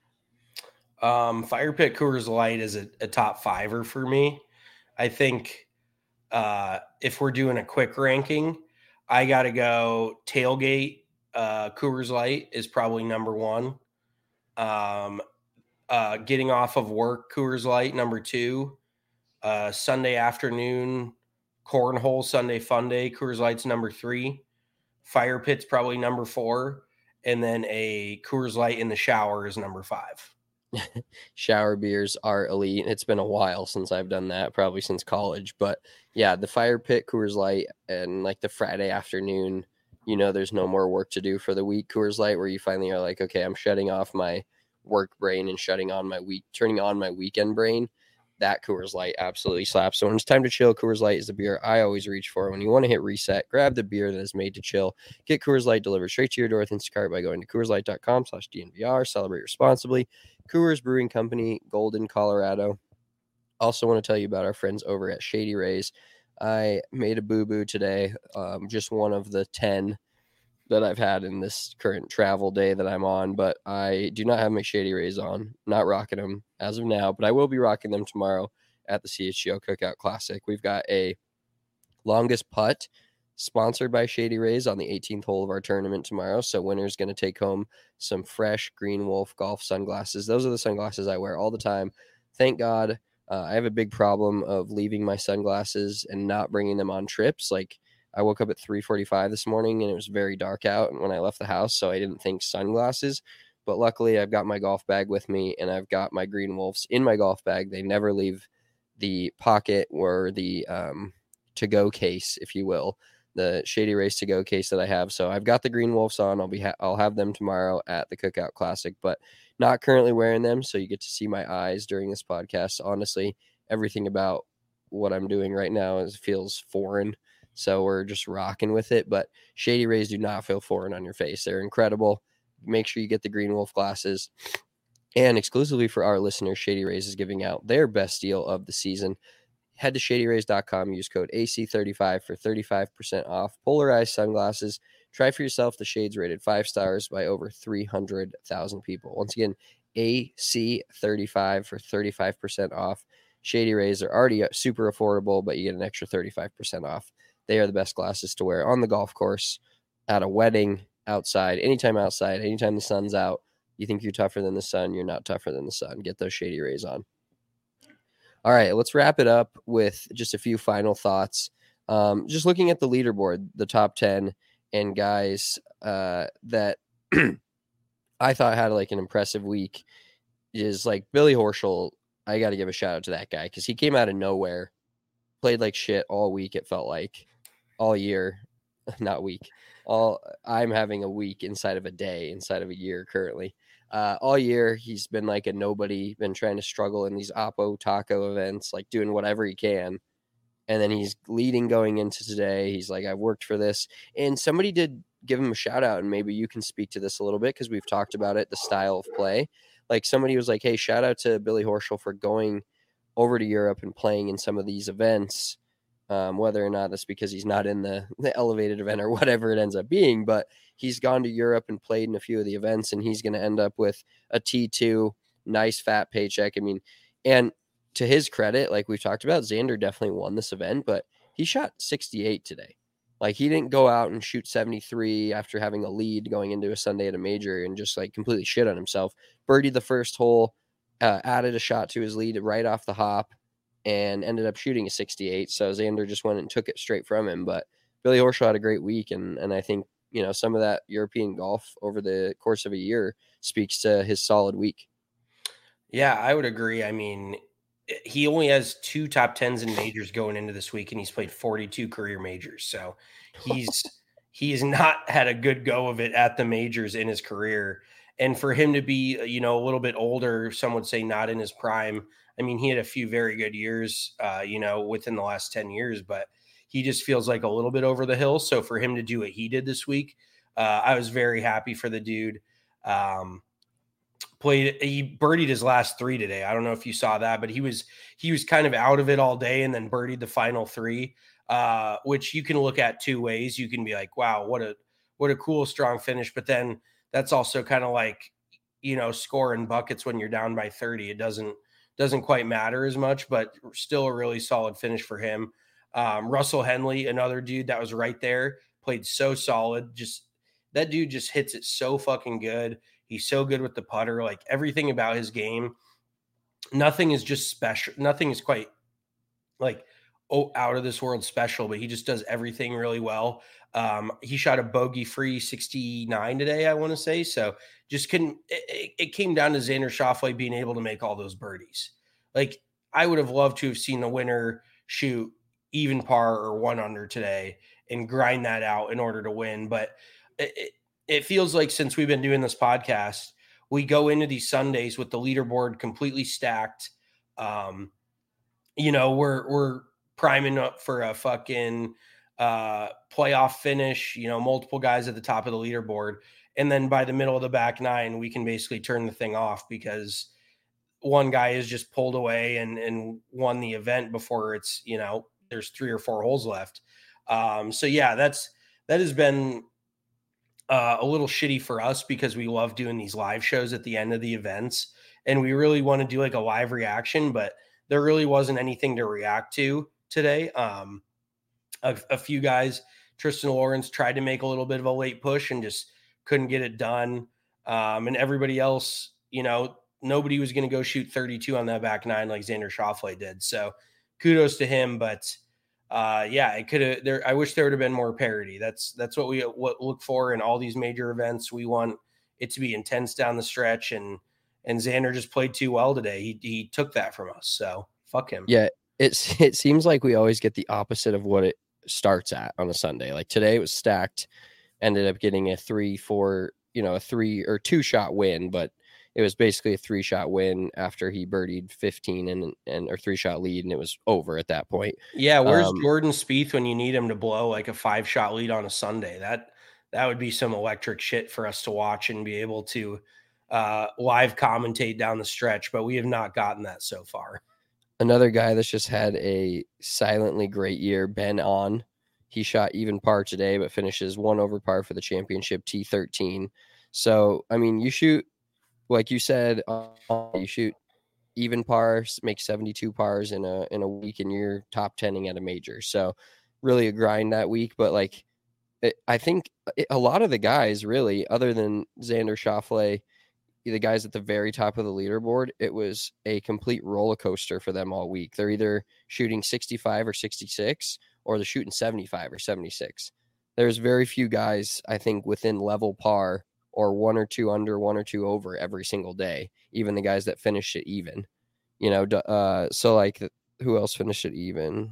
Fire pit Coors Light is a top 5er for me. I think if we're doing a quick ranking, I got to go tailgate. Coors Light is probably number 1. Getting off of work, Coors Light, number 2. Sunday afternoon, cornhole Sunday fun day, Coors Light's number 3. Fire pit's probably number 4. And then a Coors Light in the shower is number 5. Shower beers are elite. It's been a while since I've done that, probably since college. But yeah, the fire pit Coors Light and like the Friday afternoon, there's no more work to do for the week Coors Light, where you finally are like, okay, I'm shutting off my work brain and turning on my weekend brain. That Coors Light absolutely slaps. So when it's time to chill, Coors Light is the beer I always reach for. When you want to hit reset, grab the beer that is made to chill. Get Coors Light delivered straight to your door with Instacart by going to CoorsLight.com/DNVR. Celebrate responsibly. Coors Brewing Company, Golden, Colorado. Also want to tell you about our friends over at Shady Rays. I made a boo-boo today, just one of the 10 that I've had in this current travel day that I'm on, but I do not have my Shady Rays on. Not rocking them as of now, but I will be rocking them tomorrow at the CHGO Cookout Classic. We've got a longest putt sponsored by Shady Rays on the 18th hole of our tournament tomorrow. So winner's going to take home some fresh Green Wolf golf sunglasses. Those are the sunglasses I wear all the time. Thank God. I have a big problem of leaving my sunglasses and not bringing them on trips. Like, I woke up at 3:45 this morning and it was very dark out when I left the house, so I didn't think sunglasses. But luckily, I've got my golf bag with me and I've got my Green Wolves in my golf bag. They never leave the pocket or the to-go case, if you will, the Shady Rays to-go case that I have. So I've got the Green Wolves on. I'll have them tomorrow at the Cookout Classic, but not currently wearing them. So you get to see my eyes during this podcast. Honestly, everything about what I'm doing right now feels foreign. So we're just rocking with it. But Shady Rays do not feel foreign on your face. They're incredible. make sure you get the Green Wolf glasses. And exclusively for our listeners, Shady Rays is giving out their best deal of the season. Head to shadyrays.com, use code AC35 for 35% off polarized sunglasses. Try for yourself the shades rated 5 stars by over 300,000 people. Once again, AC35 for 35% off. Shady Rays are already super affordable, but you get an extra 35% off. They are the best glasses to wear on the golf course, at a wedding, outside, anytime the sun's out. You think you're tougher than the sun, you're not tougher than the sun. Get those Shady Rays on. All right, let's wrap it up with just a few final thoughts. Just looking at the leaderboard, the top 10 and guys that I thought had like an impressive week is like Billy Horschel. I got to give a shout out to that guy because he came out of nowhere, played like shit all week. It felt like all year, not week. I'm having a week inside of a day, inside of a year currently. All year, he's been like a nobody, been trying to struggle in these Oppo Taco events, like doing whatever he can. And then he's leading going into today. He's like, I've worked for this. And somebody did give him a shout out, and maybe you can speak to this a little bit because we've talked about it, the style of play. Like somebody was like, hey, shout out to Billy Horschel for going over to Europe and playing in some of these events. Whether or not that's because he's not in the elevated event or whatever it ends up being, but he's gone to Europe and played in a few of the events, and he's going to end up with a T2, nice fat paycheck. I mean, and to his credit, like we've talked about, Xander definitely won this event, but he shot 68 today. Like he didn't go out and shoot 73 after having a lead going into a Sunday at a major and just like completely shit on himself. Birdied the first hole, added a shot to his lead right off the hop, and ended up shooting a 68. So Xander just went and took it straight from him. But Billy Horschel had a great week. And I think, you know, some of that European golf over the course of a year speaks to his solid week. Yeah, I would agree. I mean, he only has 2 top 10s in majors going into this week, and he's played 42 career majors. So he's not had a good go of it at the majors in his career. And for him to be, you know, a little bit older, some would say not in his prime. I mean, he had a few very good years, you know, within the last 10 years, but he just feels like a little bit over the hill. So for him to do what he did this week, I was very happy for the dude. He birdied his last 3 today. I don't know if you saw that, but he was kind of out of it all day and then birdied the final 3, which you can look at 2 ways. You can be like, wow, what a cool, strong finish. But then that's also kind of like, you know, scoring buckets when you're down by 30. It doesn't quite matter as much, but still a really solid finish for him. Russell Henley, another dude that was right there, played so solid. That dude just hits it so fucking good. He's so good with the putter. Like everything about his game, nothing is just special. Nothing is quite like out of this world special, but he just does everything really well. He shot a bogey-free 69 today, I want to say. So just it came down to Xander Schauffele being able to make all those birdies. Like I would have loved to have seen the winner shoot even par or 1 under today and grind that out in order to win. But it feels like since we've been doing this podcast, we go into these Sundays with the leaderboard completely stacked. You know, we're priming up for a fucking playoff finish, you know, multiple guys at the top of the leaderboard. And then by the middle of the back 9, we can basically turn the thing off because one guy is just pulled away and won the event before it's, you know, there's 3 or 4 holes left. So yeah, that has been a little shitty for us because we love doing these live shows at the end of the events. And we really want to do like a live reaction, but there really wasn't anything to react to today. A few guys, Tristan Lawrence tried to make a little bit of a late push and just couldn't get it done. And everybody else, you know, nobody was going to go shoot 32 on that back 9 like Xander Schauffele did. So kudos to him. But yeah, it could have I wish there would have been more parity. That's what we look for in all these major events. We want it to be intense down the stretch, and Xander just played too well today. He took that from us. So fuck him. Yeah. It seems like we always get the opposite of what it starts at on a Sunday. Like today it was stacked, ended up getting a 3-4, you know, a 3 or 2 shot win, but it was basically a 3-shot win after he birdied 15 and or 3-shot lead, and it was over at that point. Yeah, where's Jordan Spieth when you need him to blow like a 5-shot lead on a Sunday? that would be some electric shit for us to watch and be able to live commentate down the stretch. But we have not gotten that so far. Another guy that's just had a silently great year, Ben On. He shot even par today, but finishes 1 over par for the championship, T13. So, I mean, you shoot, like you said, you shoot even pars, make 72 pars in a week, and you're top 10ing at a major. So, really a grind that week. But, like, I think a lot of the guys, really, other than Xander Schauffele, the guys at the very top of the leaderboard, it was a complete roller coaster for them all week. They're either shooting 65 or 66, or they're shooting 75 or 76. There's very few guys, I think, within level par or 1 or 2 under, 1 or 2 over every single day, even the guys that finish it even. You know, so like who else finished it even?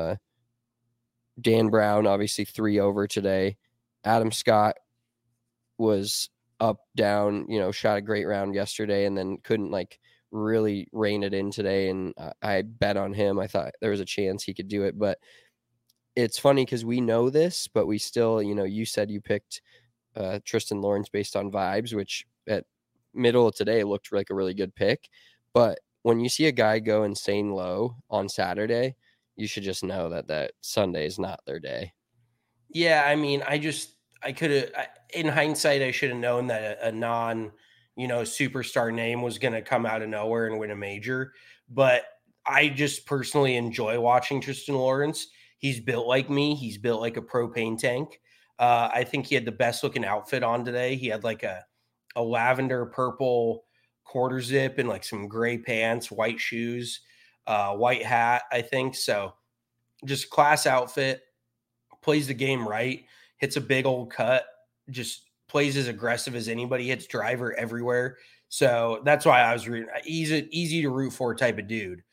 Dan Brown, obviously 3 over today. Adam Scott was up, down, you know, shot a great round yesterday and then couldn't like really rein it in today. And I bet on him. I thought there was a chance he could do it, but it's funny because we know this, but we still, you know, you said you picked Tristan Lawrence based on vibes, which at middle of today looked like a really good pick. But when you see a guy go insane low on Saturday, you should just know that Sunday is not their day. Yeah, I mean, I could have, in hindsight, I should have known that a non, you know, superstar name was going to come out of nowhere and win a major. But I just personally enjoy watching Tristan Lawrence. He's built like me. He's built like a propane tank. I think he had the best looking outfit on today. He had like a lavender purple quarter zip and like some gray pants, white shoes, white hat, I think. So just class outfit, plays the game right, hits a big old cut, just plays as aggressive as anybody, hits driver everywhere. So that's why I was rooting. He's an easy to root for type of dude.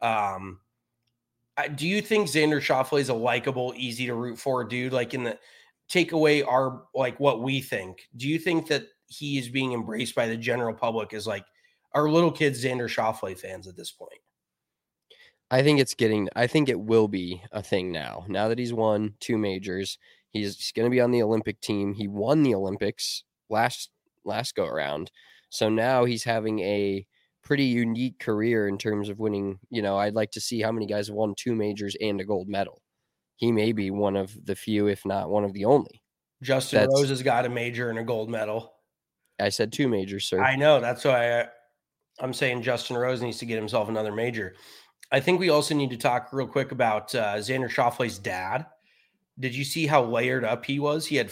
Do you think Xander Schauffele is a likable, easy to root for dude? Like in the take away our, like what we think, do you think that he is being embraced by the general public as like our little kids Xander Schauffele fans at this point? I think it will be a thing now that he's won 2 majors. He's going to be on the Olympic team. He won the Olympics last go around. So now he's having a pretty unique career in terms of winning. You know, I'd like to see how many guys have won 2 majors and a gold medal. He may be one of the few, if not one of the only. Justin Rose has got a major and a gold medal. I said 2 majors, sir. I know. That's why I'm saying Justin Rose needs to get himself another major. I think we also need to talk real quick about Xander Schauffele's dad. Did you see how layered up he was? He had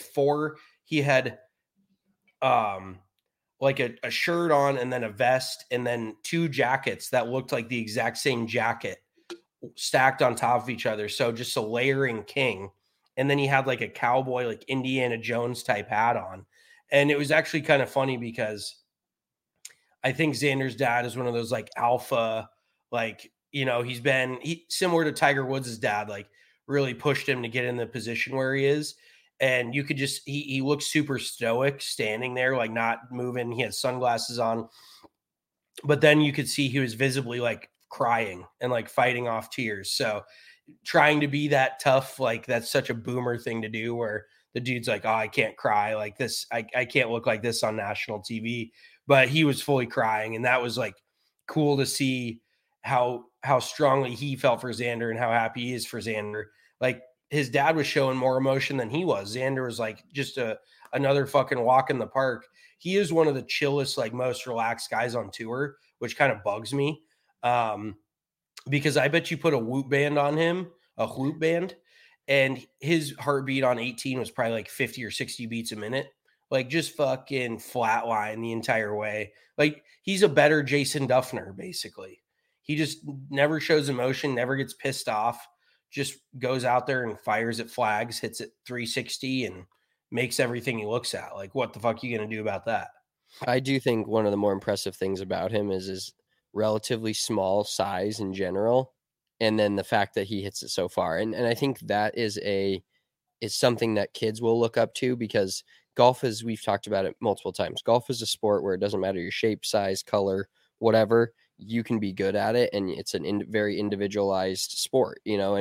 like a shirt on and then a vest and then 2 jackets that looked like the exact same jacket stacked on top of each other. So just a layering king. And then he had like a cowboy, like Indiana Jones type hat on. And it was actually kind of funny because I think Xander's dad is one of those like alpha, like, you know, he's similar to Tiger Woods' dad, like really pushed him to get in the position where he is. And you could just, he looks super stoic standing there, like not moving. He had sunglasses on, but then you could see he was visibly like crying and like fighting off tears. So trying to be that tough, like that's such a boomer thing to do where the dude's like, oh, I can't cry like this. I can't look like this on national TV, but he was fully crying. And that was like cool to see how strongly he felt for Xander and how happy he is for Xander. Like his dad was showing more emotion than he was. Xander was like just another fucking walk in the park. He is one of the chillest, like most relaxed guys on tour, which kind of bugs me. Because I bet you put a whoop band on him, and his heartbeat on 18 was probably like 50 or 60 beats a minute. Like just fucking flatline the entire way. Like he's a better Jason Duffner, basically. He just never shows emotion, never gets pissed off, just goes out there and fires at flags, hits it 360 and makes everything he looks at. Like, what the fuck are you going to do about that? I do think one of the more impressive things about him is his relatively small size in general. And then the fact that he hits it so far. And I think that is something that kids will look up to because golf is, we've talked about it multiple times. Golf is a sport where it doesn't matter your shape, size, color, whatever, you can be good at it. And it's very individualized sport, you know, and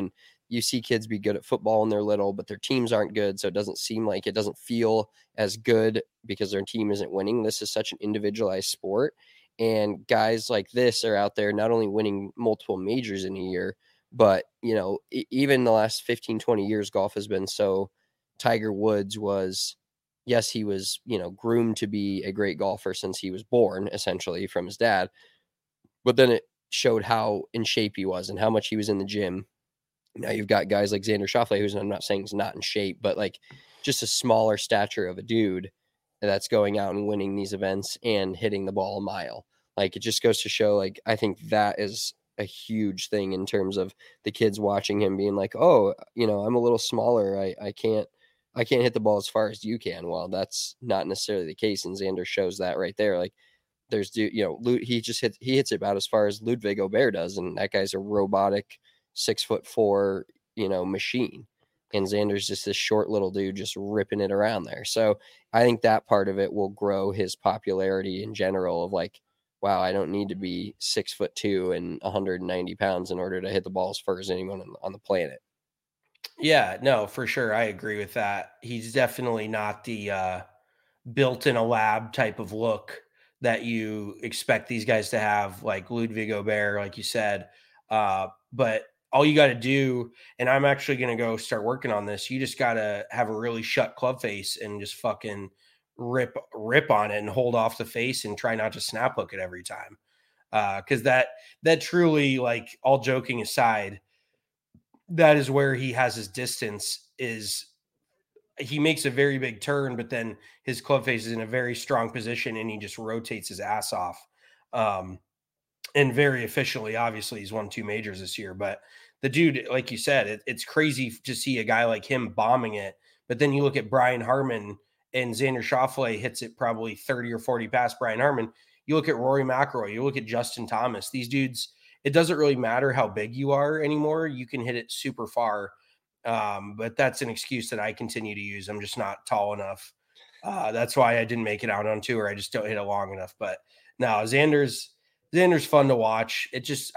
you see kids be good at football when they're little, but their teams aren't good. So it doesn't feel as good because their team isn't winning. This is such an individualized sport. And guys like this are out there not only winning multiple majors in a year, but, even the last 15, 20 years, golf has been so. Tiger Woods was, yes, he was, groomed to be a great golfer since he was born, essentially, from his dad. But then it showed how in shape he was and how much he was in the gym. Now you've got guys like Xander Schauffele, who's, I'm not saying he's not in shape, but like just a smaller stature of a dude that's going out and winning these events and hitting the ball a mile. Like, it just goes to show, like, I think that is a huge thing in terms of the kids watching him being like, oh, I'm a little smaller. I can't hit the ball as far as you can. Well, that's not necessarily the case. And Xander shows that right there. Like, he hits it about as far as Ludwig Gobert does. And that guy's a robotic 6'4", machine. And Xander's just this short little dude just ripping it around there. So I think that part of it will grow his popularity in general of like, wow, I don't need to be 6'2" and 190 pounds in order to hit the ball as far as anyone on the planet. Yeah, no, for sure. I agree with that. He's definitely not the built in a lab type of look that you expect these guys to have, like Ludwig Gobert, like you said. But all you got to do, and I'm actually going to go start working on this, you just got to have a really shut club face and just fucking rip on it and hold off the face and try not to snap hook it every time. Because that truly, like, all joking aside, that is where he has his distance. Is he makes a very big turn, but then his club face is in a very strong position and he just rotates his ass off. And very efficiently. Obviously, he's won 2 majors this year, but the dude, like you said, it's crazy to see a guy like him bombing it. But then you look at Brian Harman, and Xander Schauffele hits it probably 30 or 40 past Brian Harman. You look at Rory McIlroy, you look at Justin Thomas. These dudes, it doesn't really matter how big you are anymore. You can hit it super far. But that's an excuse that I continue to use. I'm just not tall enough. That's why I didn't make it out on tour. I just don't hit it long enough. But no, Xander's fun to watch. It just,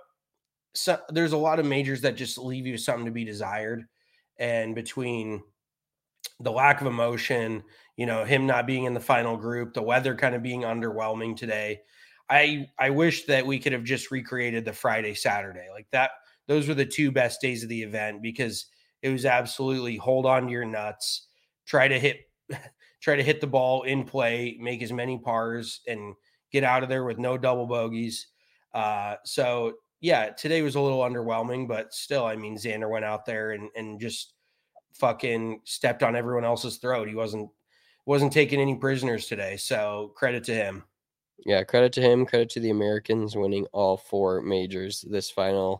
so there's a lot of majors that just leave you something to be desired. And between the lack of emotion, him not being in the final group, the weather kind of being underwhelming today, I wish that we could have just recreated the Friday, Saturday like that. Those were the 2 best days of the event because it was absolutely hold on to your nuts, try to hit the ball in play, make as many pars and get out of there with no double bogeys. So yeah, today was a little underwhelming, but still, I mean, Xander went out there and just fucking stepped on everyone else's throat. He wasn't taking any prisoners today. So credit to him. Yeah, credit to him. Credit to the Americans winning all 4 majors. This final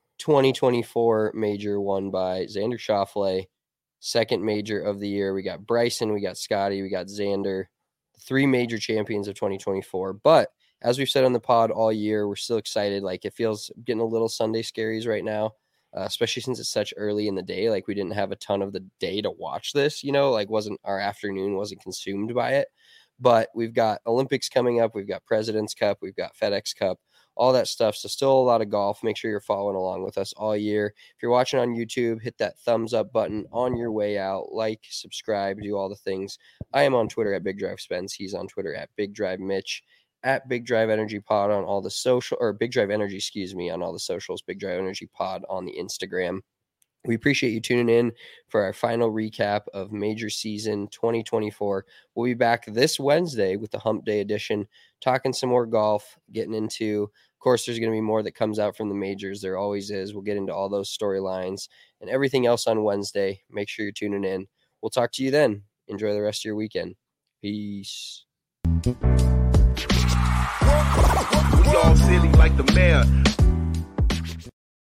2024 major won by Xander Schauffele. Second major of the year. We got Bryson, we got Scotty, we got Xander. 3 major champions of 2024. But as we've said on the pod all year, we're still excited. Like, it feels getting a little Sunday scaries right now, especially since it's such early in the day. Like, we didn't have a ton of the day to watch this, like our afternoon wasn't consumed by it. But we've got Olympics coming up. We've got President's Cup. We've got FedEx Cup, all that stuff. So still a lot of golf. Make sure you're following along with us all year. If you're watching on YouTube, hit that thumbs up button on your way out. Like, subscribe, do all the things. I am on Twitter at Big Drive Spence. He's on Twitter at Big Drive Mitch, at Big Drive Energy Pod on all the social, or Big Drive Energy, on all the socials. Big Drive Energy Pod on the Instagram. We appreciate you tuning in for our final recap of Major Season 2024. We'll be back this Wednesday with the Hump Day edition, talking some more golf, getting into, of course, there's going to be more that comes out from the majors. There always is. We'll get into all those storylines and everything else on Wednesday. Make sure you're tuning in. We'll talk to you then. Enjoy the rest of your weekend. Peace. We all silly like the mayor.